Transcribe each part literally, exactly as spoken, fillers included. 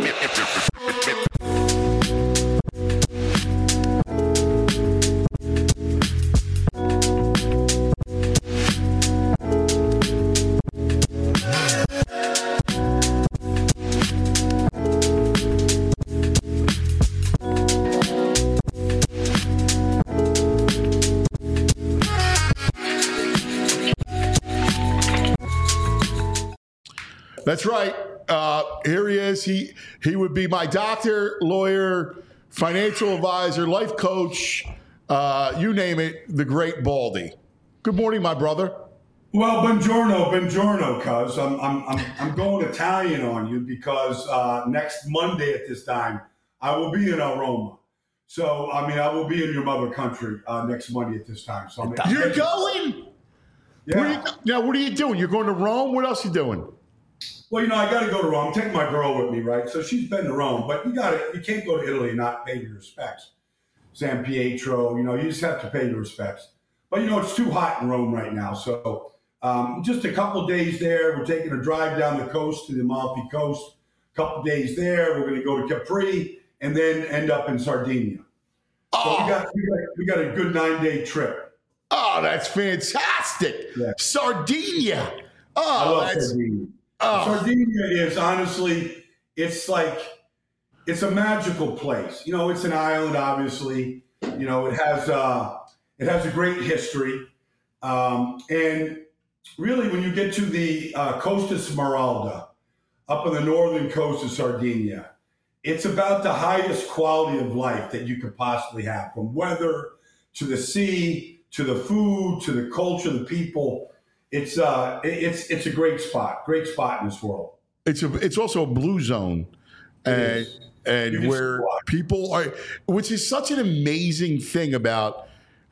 That's right. Uh, here he is. He he would be my doctor, lawyer, financial advisor, life coach, uh, you name it, the great Baldy. Good morning, my brother. Well, buongiorno, buongiorno, cuz. I'm, I'm, I'm, I'm going Italian on you because uh, next Monday at this time, I will be in Roma. So, I mean, I will be in your mother country uh, next Monday at this time. So I'm You're going? Yeah. Where you, now, what are you doing? You're going to Rome? What else are you doing? Well, you know, I got to go to Rome. I'm taking my girl with me, right? So she's been to Rome, but you got to, you can't go to Italy and not pay your respects. San Pietro, you know, you just have to pay your respects. But, you know, it's too hot in Rome right now. So um, just a couple days there. We're taking a drive down the coast to the Amalfi Coast. A couple days there. We're going to go to Capri and then end up in Sardinia. So Oh. we, got, we, got, we got a good nine-day trip. Oh, that's fantastic. Yeah. Sardinia. I Oh, love that's Sardinia. oh. Sardinia is honestly, it's like, it's a magical place. You know, it's an island, obviously. You know, it has uh, it has a great history. Um, and really, when you get to the uh, Costa Smeralda, up on the northern coast of Sardinia, it's about the highest quality of life that you could possibly have, from weather to the sea, to the food, to the culture, the people. It's uh, it's it's a great spot, great spot in this world. It's a it's also a blue zone, and and where people are, which is such an amazing thing about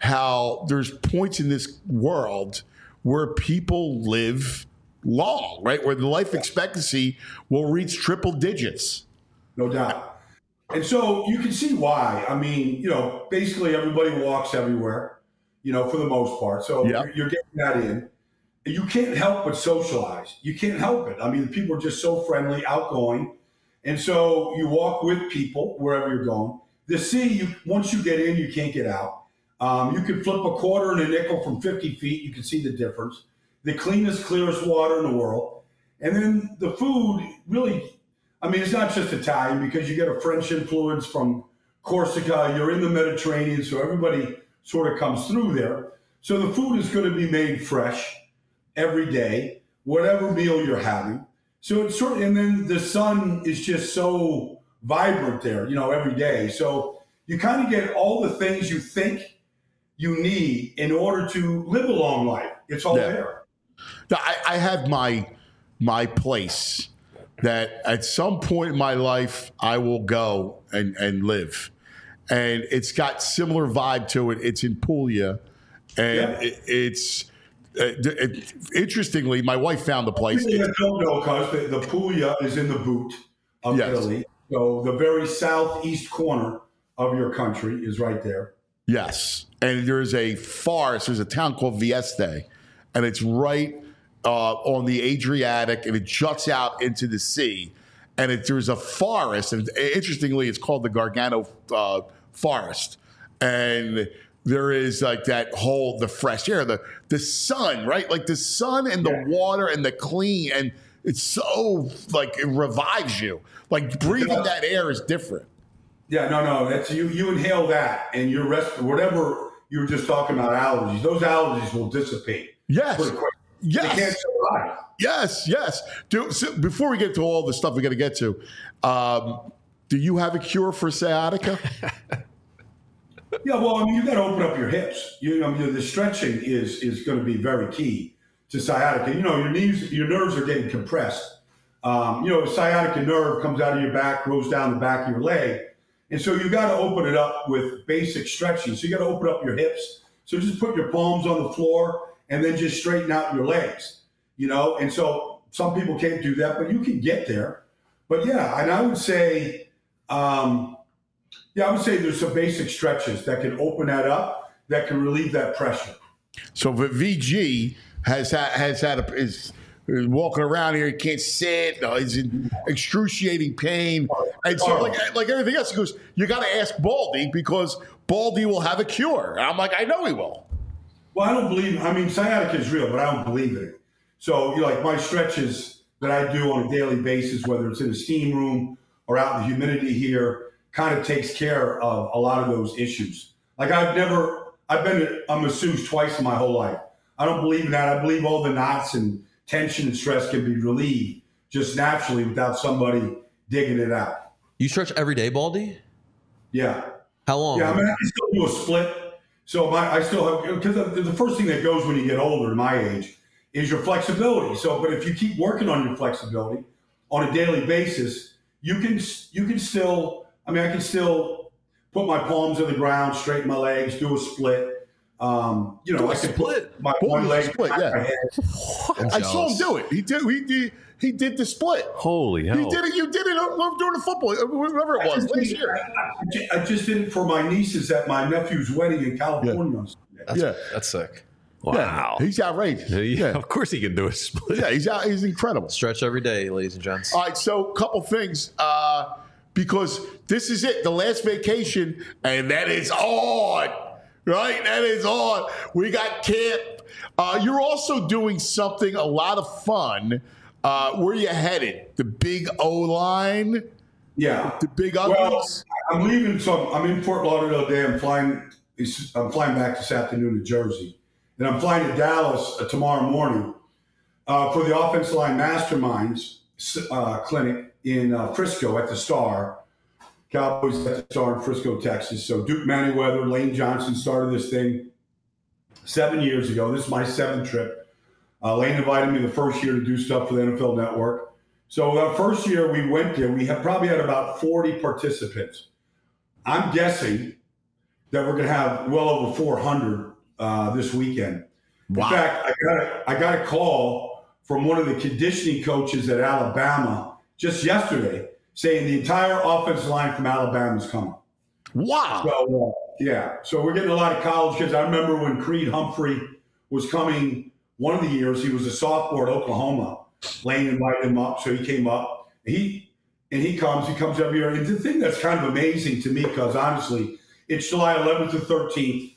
how there's points in this world where people live long, right? Where the life expectancy will reach triple digits. No doubt. And so you can see why. I mean, you know, basically everybody walks everywhere, you know, for the most part. So Yeah. you're, you're getting that in. And you can't help but socialize. You can't help it. I mean, the people are just so friendly, outgoing. And so you walk with people wherever you're going. The sea, you, once you get in, you can't get out. Um, you can flip a quarter and a nickel from fifty feet. You can see the difference. The cleanest, clearest water in the world. And then the food really, I mean, it's not just Italian because you get a French influence from Corsica. You're in the Mediterranean, so everybody sort of comes through there. So the food is going to be made fresh every day, whatever meal you're having. So it's sort of, and then the sun is just so vibrant there, you know, every day. So you kind of get all the things you think you need in order to live a long life. It's all Yeah. there. Now, I, I have my my place that at some point in my life I will go and, and live. And it's got similar vibe to it. It's in Puglia. And Yeah. it, it's uh, it, interestingly, my wife found the place. People It's, that don't know, because the, the Puglia is in the boot of Yes. Italy. So the very southeast corner of your country is right there. yes. And there's a forest. There's a town called Vieste. And it's right uh, on the Adriatic. And it juts out into the sea. And it, there's a forest. And interestingly, it's called the Gargano uh, Forest. And there is like that whole, the fresh air, the the sun, right? Like the sun and the Yeah. water and the clean. And it's so, like, it revives you. Like breathing does. that air is different. Yeah, no, no. That's you. You inhale that, and your rest, whatever you were just talking about, allergies. Those allergies will dissipate Yes. pretty quick. Yes. They can't survive. Yes, yes. Do, so before we get to all the stuff we got to get to, um, do you have a cure for sciatica? Yeah, well, I mean, you got to open up your hips. You, I mean, the stretching is is going to be very key to sciatica. You know, your knees, your nerves are getting compressed. Um, you know, the sciatica nerve comes out of your back, goes down the back of your leg, and so you got to open it up with basic stretching. So you got to open up your hips. So just put your palms on the floor and then just straighten out your legs. You know, and so some people can't do that, but you can get there. But yeah, and I would say. Um, Yeah, I would say there's some basic stretches that can open that up, that can relieve that pressure. So V G has had, has had a, is He's walking around here, he can't sit. No, he's in excruciating pain. And so, like, like everything else, he goes, you got to ask Baldy because Baldy will have a cure. And I'm like, I know he will. Well, I don't believe, I mean, sciatica is real, but I don't believe in it. So, you know, like my stretches that I do on a daily basis, whether it's in a steam room or out in the humidity here, kind of takes care of a lot of those issues. Like I've never, I've been a masseuse twice in my whole life. I don't believe in that. I believe all the knots and tension and stress can be relieved just naturally without somebody digging it out. You stretch every day, Baldy? Yeah. How long? Yeah, I mean, I still do a split. So my, I still have, because the first thing that goes when you get older, my age, is your flexibility. So, but if you keep working on your flexibility on a daily basis, you can, you can still, I mean, I can still put my palms on the ground, straighten my legs, do a split. Um, you know, Do a I can split? put my What one was leg a split? behind Yeah. my head. I saw him do it. He did. He did. He did the split. Holy hell. He did it. You did it during the football, whatever it was last year. I ju- I just did it for my nieces at my nephew's wedding in California. That's, Yeah. that's sick. Wow. Yeah, he's outrageous. Yeah, Yeah, of course he can do a split. yeah, he's out. He's incredible. Stretch every day, ladies and gents. All right, so a couple things uh, because this is it, the last vacation, and that is on, right? That is on. We got camp. Uh, you're also doing something a lot of fun. Uh, where you headed? The big O line, Yeah. the big Well, uglies. I'm leaving. So I'm in Fort Lauderdale today. I'm flying. I'm flying back this afternoon to Jersey, and I'm flying to Dallas uh, tomorrow morning uh, for the offensive line masterminds uh, clinic in uh, Frisco at the Star. Cowboys at the Star in Frisco, Texas. So Duke Manyweather, Lane Johnson started this thing seven years ago. This is my seventh trip. Uh, Lane invited me the first year to do stuff for the N F L Network. So the first year we went there, we had probably had about forty participants. I'm guessing that we're going to have well over four hundred uh, this weekend. Wow. In fact, I got, a, I got a call from one of the conditioning coaches at Alabama just yesterday saying the entire offensive line from Alabama is coming. Wow. So, uh, yeah. So we're getting a lot of college kids. I remember when Creed Humphrey was coming one of the years, he was a sophomore at Oklahoma. Lane invited him up, so he came up. He and he comes, he comes every year. And the thing that's kind of amazing to me, because honestly, it's July eleventh to thirteenth.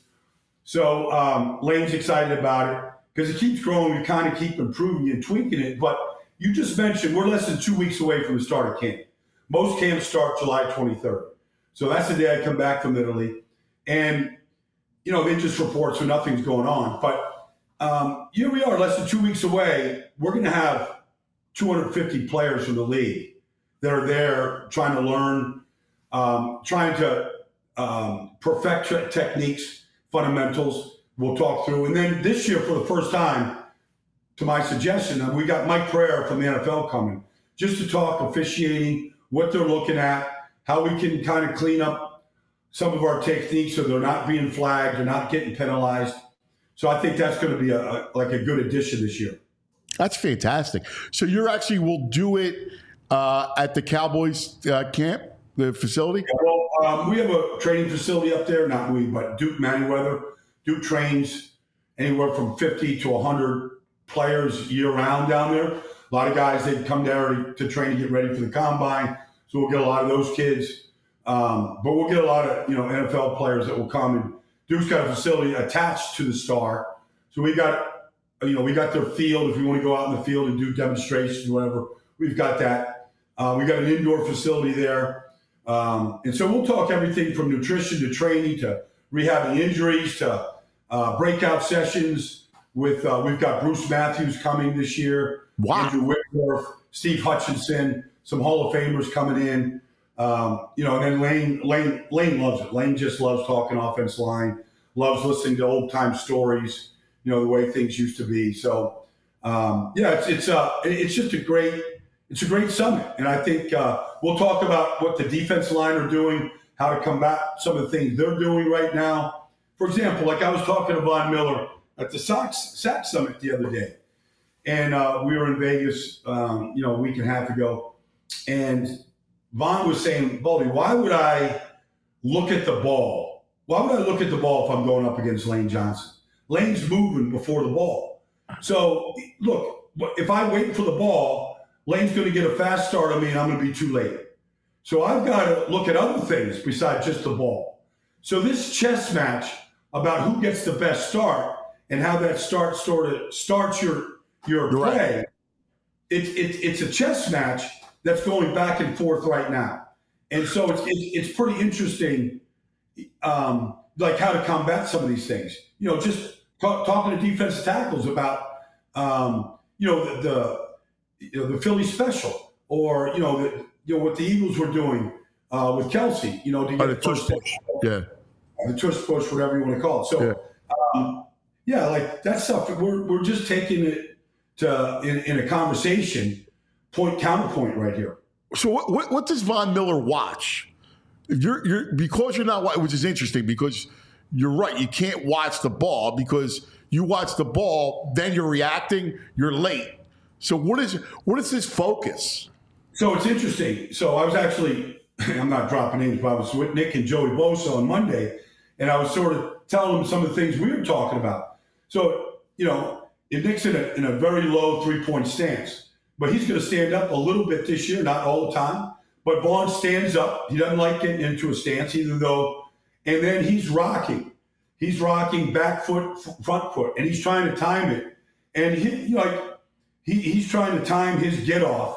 So um, Lane's excited about it because it keeps growing. We kind of keep improving and tweaking it. But you just mentioned we're less than two weeks away from the start of camp. Most camps start July twenty-third. So that's the day I come back from Italy. And, you know, they just report, so nothing's going on. But um, here we are, less than two weeks away. We're going to have two hundred fifty players from the league that are there trying to learn, um, trying to um, perfect te- techniques, fundamentals. We'll talk through. And then this year, for the first time, to my suggestion, we got Mike Pereira from the N F L coming just to talk officiating, what they're looking at, how we can kind of clean up some of our techniques so they're not being flagged, they're not getting penalized. So I think that's going to be a, a like a good addition this year. That's fantastic. So you're actually will do it uh, at the Cowboys uh, camp, the facility? Well, um, we have a training facility up there. Not we, but Duke Manyweather. Duke trains anywhere from fifty to one hundred players year round down there. A lot of guys, they come there to, to train to get ready for the combine. So we'll get a lot of those kids. Um, but we'll get a lot of, you know, N F L players that will come. And Duke's got a facility attached to the Star. So we got, you know, we got their field. If we want to go out in the field and do demonstrations, whatever, we've got that. Uh, we got an indoor facility there. Um, and so we'll talk everything from nutrition to training to rehabbing injuries to uh, breakout sessions with, uh, we've got Bruce Matthews coming this year. Wow. Andrew Whitworth, Steve Hutchinson, some Hall of Famers coming in. Um, you know, and then Lane, Lane, Lane loves it. Lane just loves talking offense line, loves listening to old time stories, you know, the way things used to be. So, um, yeah, it's, it's, uh, it's just a great, it's a great summit. And I think, uh, we'll talk about what the defense line are doing, how to combat some of the things they're doing right now. For example, like I was talking to Von Miller at the Sox Sack Summit the other day, and, uh, we were in Vegas, um, you know, a week and a half ago, and Von was saying, Baldy, why would I look at the ball? Why would I look at the ball if I'm going up against Lane Johnson? Lane's moving before the ball. So, look, if I wait for the ball, Lane's going to get a fast start on me and I'm going to be too late. So I've got to look at other things besides just the ball. So this chess match about who gets the best start and how that start sort of starts your your You're play, right. it, it, it's a chess match that's going back and forth right now. And so it's, it's, it's pretty interesting, um, like how to combat some of these things. You know, just talk, talking to defensive tackles about, um, you know, the, the, you know, the Philly special, or, you know, the, you know what the Eagles were doing uh, with Kelsey, you know, to Oh, get the the tush first push. Yeah. the tush push, whatever you want to call it. So, Yeah. um, yeah, like that stuff, we're, we're just taking it to, in, in a conversation, point, counterpoint right here. So what, what, what does Von Miller watch? You're, you're because you're not, wa- which is interesting because you're right. You can't watch the ball because you watch the ball, then you're reacting, you're late. So what is what is his focus? So it's interesting. So I was actually, I'm not dropping names, but I was with Nick and Joey Bosa on Monday, and I was sort of telling them some of the things we were talking about. So, you know, if Nick's in a, in a very low three-point stance, but he's going to stand up a little bit this year, not all the time. But Vaughn stands up. He doesn't like getting into a stance, even though, and then he's rocking. He's rocking back foot, front foot, and he's trying to time it. And he, you know, like he, he's trying to time his get off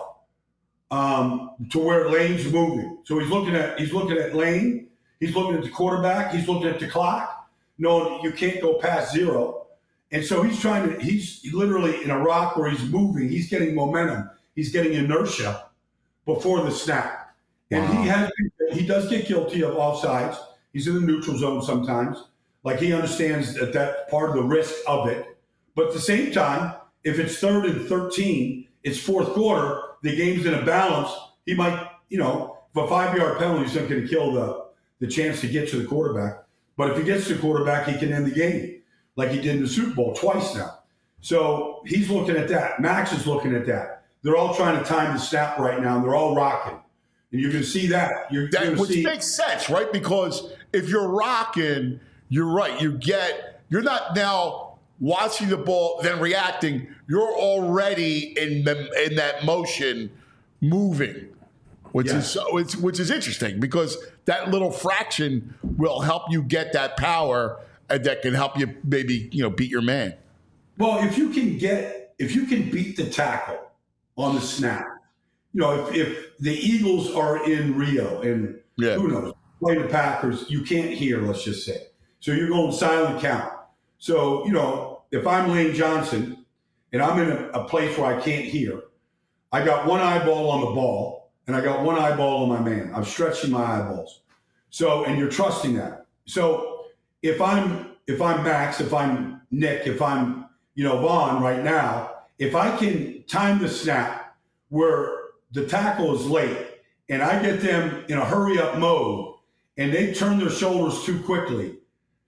um, to where Lane's moving. So he's looking at he's looking at Lane. He's looking at the quarterback. He's looking at the clock. No, you can't go past zero. And so he's trying to. He's literally in a rock where he's moving. He's getting momentum. He's getting inertia before the snap. And Wow. he has he does get guilty of offsides. He's in the neutral zone sometimes. Like he understands that that's part of the risk of it. But at the same time, if it's third and thirteen, it's fourth quarter, the game's in a balance. He might, you know, if a five-yard penalty is not going to kill the, the chance to get to the quarterback. But if he gets to the quarterback, he can end the game, like he did in the Super Bowl twice now. So he's looking at that. Max is looking at that. They're all trying to time the snap right now, and they're all rocking. And you can see that. You're, That, you're which see, makes sense, right? Because if you're rocking, you're right. You get you're not now watching the ball then reacting. You're already in the in that motion, moving, which Yeah. is so it's which is interesting because that little fraction will help you get that power and that can help you maybe you know beat your man. Well, if you can get, if you can beat the tackle on the snap, you know, if, if the Eagles are in Rio and Yeah. who knows, play the Packers, you can't hear, let's just say. So you're going silent count. So, you know, if I'm Lane Johnson and I'm in a, a place where I can't hear, I got one eyeball on the ball and I got one eyeball on my man. I'm stretching my eyeballs. So, and you're trusting that. So if I'm, if I'm Max, if I'm Nick, if I'm, you know, Vaughn right now, if I can time the snap where the tackle is late and I get them in a hurry up mode and they turn their shoulders too quickly,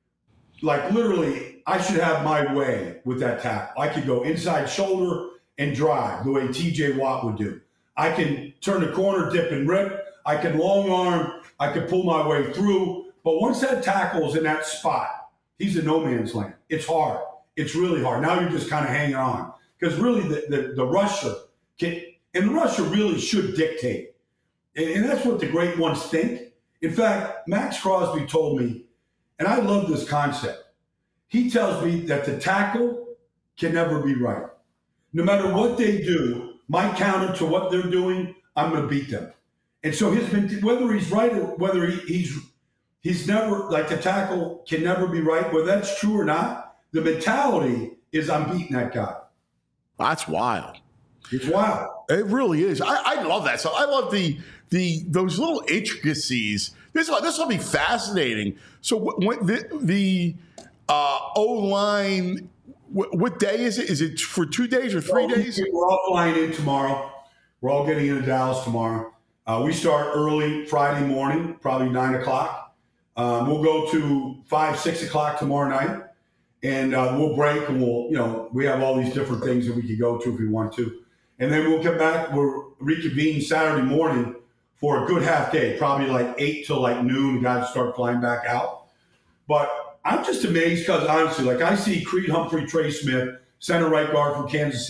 like literally I should have my way with that tackle. I could go inside shoulder and drive the way T J Watt would do. I can turn the corner, dip and rip. I can long arm. I can pull my way through. But once that tackle's in that spot, he's in no man's land. It's hard. It's really hard. Now you're just kind of hanging on. Because really the, the, the rusher can, and the rusher really should dictate. And, and that's what the great ones think. In fact, Max Crosby told me, and I love this concept. He tells me that the tackle can never be right. No matter what they do, my counter to what they're doing, I'm going to beat them. And so his whether he's right or whether he, he's he's never, like the tackle can never be right, whether that's true or not, the mentality is I'm beating that guy. That's wild. It's wild. It really is. I, I love that. So I love the the those little intricacies. This this will be fascinating. So what the the uh, O line? What, what day is it? Is it for two days or three Well, days? We're all flying in tomorrow. We're all getting into Dallas tomorrow. Uh, we start early Friday morning, probably nine o'clock. Um, we'll go to five, six o'clock tomorrow night, and uh, we'll break and we'll, you know, we have all these different things that we could go to if we want to. And then we'll come back, we'll reconvene Saturday morning for a good half day, probably like eight till like noon, guys start flying back out. But I'm just amazed because honestly, like I see Creed Humphrey, Trey Smith, center right guard from Kansas City,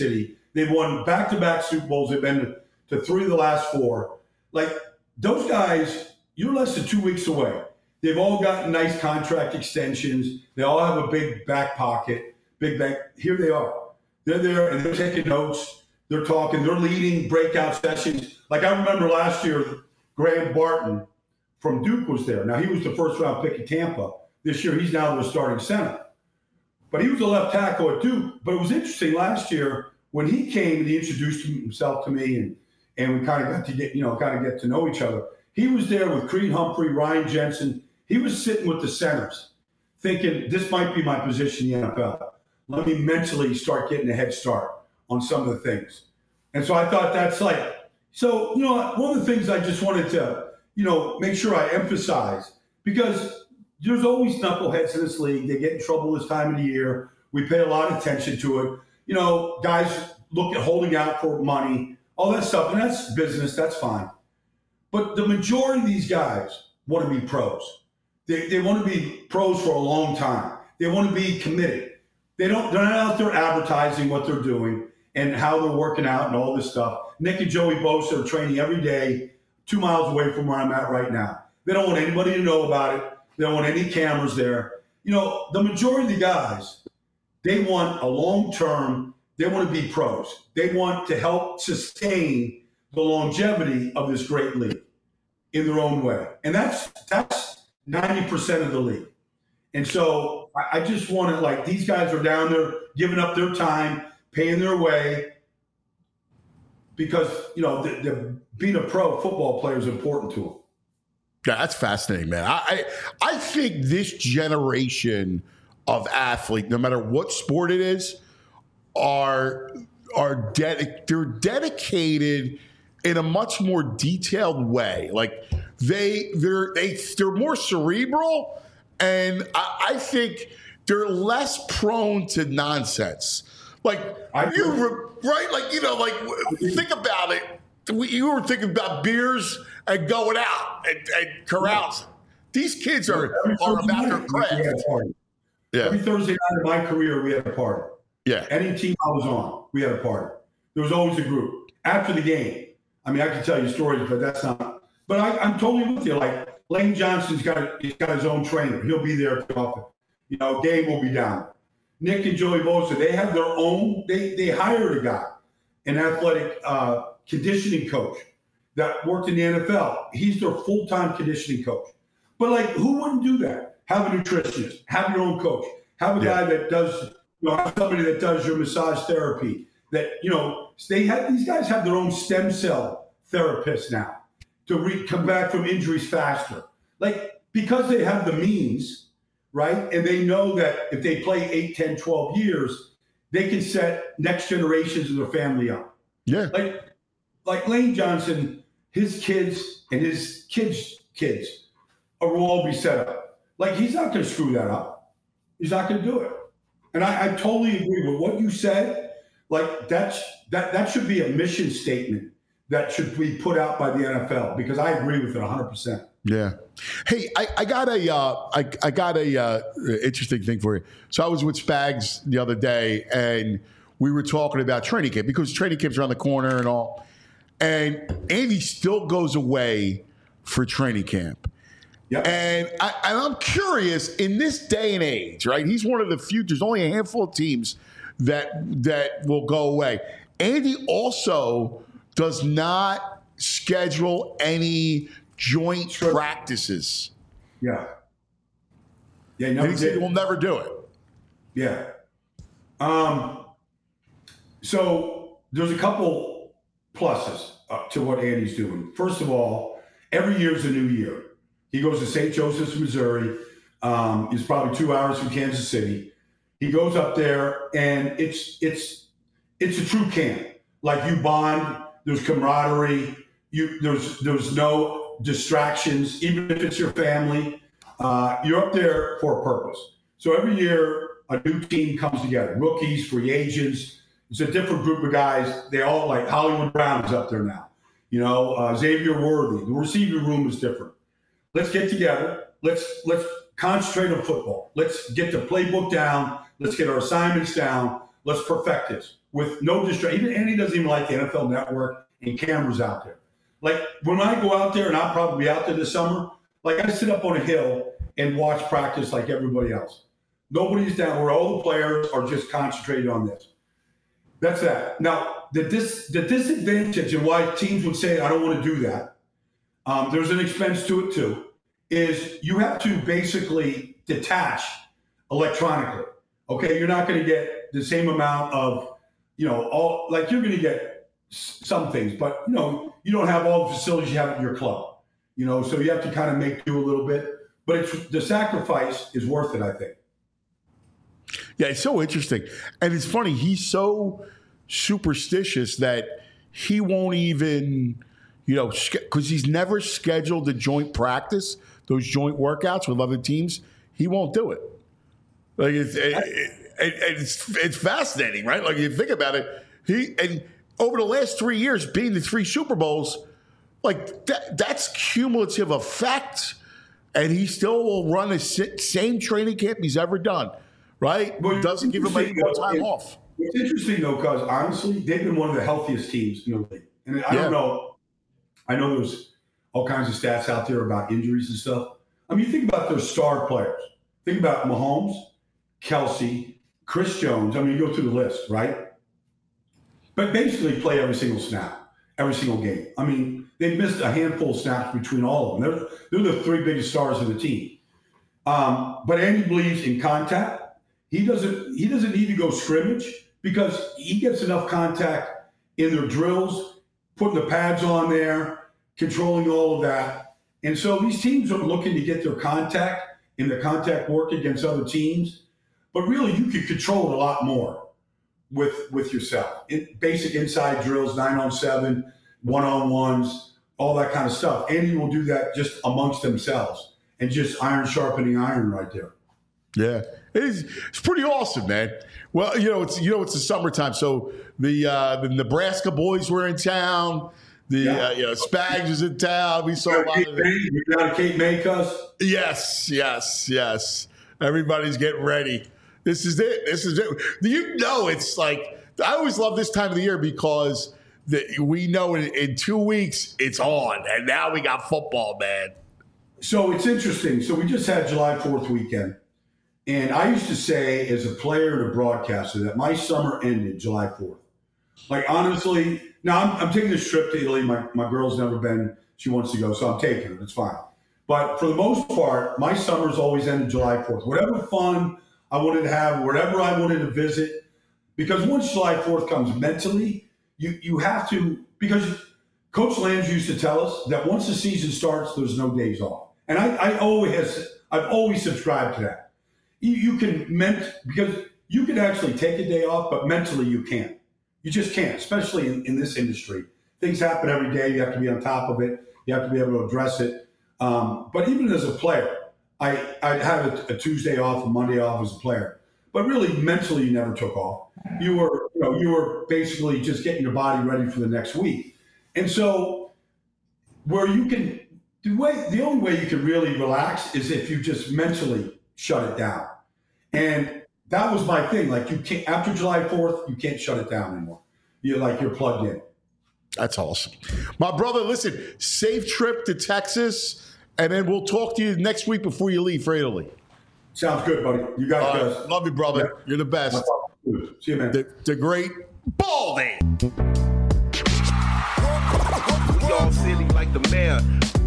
They've won back-to-back Super Bowls. They've been to three of the last four. Like, those guys, you're less than two weeks away. They've all gotten nice contract extensions. They all have a big back pocket, big bank. Here they are. They're there, and they're taking notes. They're talking. They're leading breakout sessions. Like, I remember last year, Graham Barton from Duke was there. Now, he was the first-round pick in Tampa. This year, he's now the starting center. But he was a left tackle at Duke. But it was interesting last year when he came and he introduced himself to me, and, and we kind of got to get, you know, kind of get to know each other. He was there with Creed Humphrey, Ryan Jensen. He was sitting with the centers thinking, this might be my position in the N F L. Let me mentally start getting a head start on some of the things. And so I thought that's like, so, you know, one of the things I just wanted to, you know, make sure I emphasize, because there's always knuckleheads in this league. They get in trouble this time of the year. We pay a lot of attention to it. You know, guys look at holding out for money, all that stuff, and that's business. That's fine. But the majority of these guys want to be pros. They, they want to be pros for a long time. They want to be committed. They don't, they're not out there advertising what they're doing and how they're working out and all this stuff. Nick and Joey Bosa are training every day, two miles away from where I'm at right now. They don't want anybody to know about it. They don't want any cameras there. You know, the majority of the guys, they want a long-term, they want to be pros. They want to help sustain the longevity of this great league in their own way. And that's that's ninety percent of the league. And so I, I just want to, like, these guys are down there giving up their time, paying their way, because, you know, the, the, being a pro football player is important to them. Yeah, that's fascinating, man. I, I I think this generation of athlete, no matter what sport it is, are are dedi- they're dedicated in a much more detailed way. Like they they're they they're more cerebral, and I, I think they're less prone to nonsense. Like I you re- right, like you know, like think about it. You were thinking about beers and going out and, and carousing. These kids are, are about their craft. Yeah. Every Thursday night of my career, we had a party. Yeah. Any team I was on, we had a party. There was always a group. After the game, I mean, I can tell you stories, but that's not. But I, I'm totally with you. Like, Lane Johnson's got, he's got his own trainer. He'll be there often. You know, Gabe will be down. Nick and Joey Bosa, they have their own, they, they hired a guy, an athletic uh, conditioning coach that worked in the N F L. He's their full-time conditioning coach. But, like, who wouldn't do that? Have a nutritionist, have your own coach, have a yeah. guy that does, you know, have somebody that does your massage therapy. That, you know, they have, these guys have their own stem cell therapists now to re- come back from injuries faster. Like, because they have the means, right? And they know that if they play eight, ten, twelve years, they can set next generations of their family up. Yeah. Like, like Lane Johnson, his kids and his kids' kids will all be set up. Like, he's not going to screw that up. He's not going to do it. And I, I totally agree with what you said. Like, that's, that, that should be a mission statement that should be put out by the N F L, because I agree with it one hundred percent. Yeah. Hey, I, I got a uh, I, I got a uh, interesting thing for you. So I was with Spags the other day, and we were talking about training camp, because training camp's around the corner and all. And Andy still goes away for training camp. Yeah. And, I, and I'm curious, in this day and age, right? He's one of the few. There's only a handful of teams that that will go away. Andy also does not schedule any joint sure. practices. Yeah. Yeah. No, and he said we'll never do it. Yeah. Um. So there's a couple pluses uh, to what Andy's doing. First of all, every year's a new year. He goes to Saint Joseph's, Missouri. Um, it's probably two hours from Kansas City. He goes up there, and it's it's it's a true camp. Like, you bond. There's camaraderie. You there's there's no distractions, even if it's your family. Uh, you're up there for a purpose. So every year, a new team comes together. Rookies, free agents. It's a different group of guys. They all, like, Hollywood Brown is up there now. You know, uh, Xavier Worthy. The receiving room is different. Let's get together. Let's let's concentrate on football. Let's get the playbook down. Let's get our assignments down. Let's perfect this. with no distraction. And he doesn't even like the N F L Network and cameras out there. Like when I go out there, and I'll probably be out there this summer, like I sit up on a hill and watch practice like everybody else. Nobody's down where all the players are just concentrated on this. That's that. Now, the, dis, the disadvantage and why teams would say, I don't want to do that, um, there's an expense to it too, is you have to basically detach electronically. Okay, you're not going to get the same amount of, you know, all like you're going to get some things, but you know, you don't have all the facilities you have at your club, you know, so you have to kind of make do a little bit, but it's the sacrifice is worth it, I think. Yeah, it's so interesting. And it's funny, he's so superstitious that he won't even, you know, because he's never scheduled a joint practice, those joint workouts with other teams. He won't do it. Like it's it, it, it, it's it's fascinating, right? Like you think about it, he and over the last three years, being the three Super Bowls, like that, that's cumulative effect, and he still will run the same training camp he's ever done, right? But it doesn't give him any more time it, off. It's interesting though, because honestly, they've been one of the healthiest teams in the league, and I yeah. don't know. I know there's all kinds of stats out there about injuries and stuff. I mean, you think about their star players. Think about Mahomes, Kelsey, Chris Jones. I mean, you go through the list, right? But basically play every single snap, every single game. I mean, they've missed a handful of snaps between all of them. They're, they're the three biggest stars of the team. Um, but Andy believes in contact. He doesn't, he doesn't need to go scrimmage because he gets enough contact in their drills, putting the pads on there, controlling all of that. And so these teams are looking to get their contact in the contact work against other teams. But really, you can control it a lot more with with yourself. It, basic inside drills, nine on seven, one on ones, all that kind of stuff. Andy will do that just amongst themselves and just iron sharpening iron right there. Yeah, it is, it's pretty awesome, man. Well, you know, it's you know it's the summertime, so the uh, the Nebraska boys were in town. The Yeah. uh, you know, Spags is in town. We saw a lot of it. You got a Kate May cuss? Yes, yes, yes. Everybody's getting ready. This is it. This is it. Do you know it's like I always love this time of the year because the, we know in, in two weeks it's on, and now we got football, man. So it's interesting. So we just had July fourth weekend. And I used to say as a player and a broadcaster that my summer ended July fourth. Like, honestly, now I'm, I'm taking this trip to Italy. My, my girl's never been. She wants to go, so I'm taking her. It's fine. But for the most part, my summers always ended July fourth. Whatever fun I wanted to have, wherever I wanted to visit. Because once July fourth comes mentally, you, you have to, because Coach Lange used to tell us that once the season starts, there's no days off. And I, I always, I've always subscribed to that. You, you can, ment, because you can actually take a day off, but mentally you can't. You just can't, especially in, in this industry. Things happen every day. You have to be on top of it. You have to be able to address it. Um, but even as a player, I, I'd have a, a Tuesday off, a Monday off as a player. But really, mentally, you never took off. You were, you know, you were basically just getting your body ready for the next week. And so, where you can, the way, the only way you can really relax is if you just mentally shut it down. And that was my thing. Like you can't, after July fourth, you can't shut it down anymore. You're like, you're plugged in. That's awesome. My brother, listen, safe trip to Texas, and then we'll talk to you next week before you leave for Italy. Sounds good, buddy. You guys All guys. right. Love you, brother. Yeah. You're the best. See you, man. The, the great Baldy. We all silly like the mayor.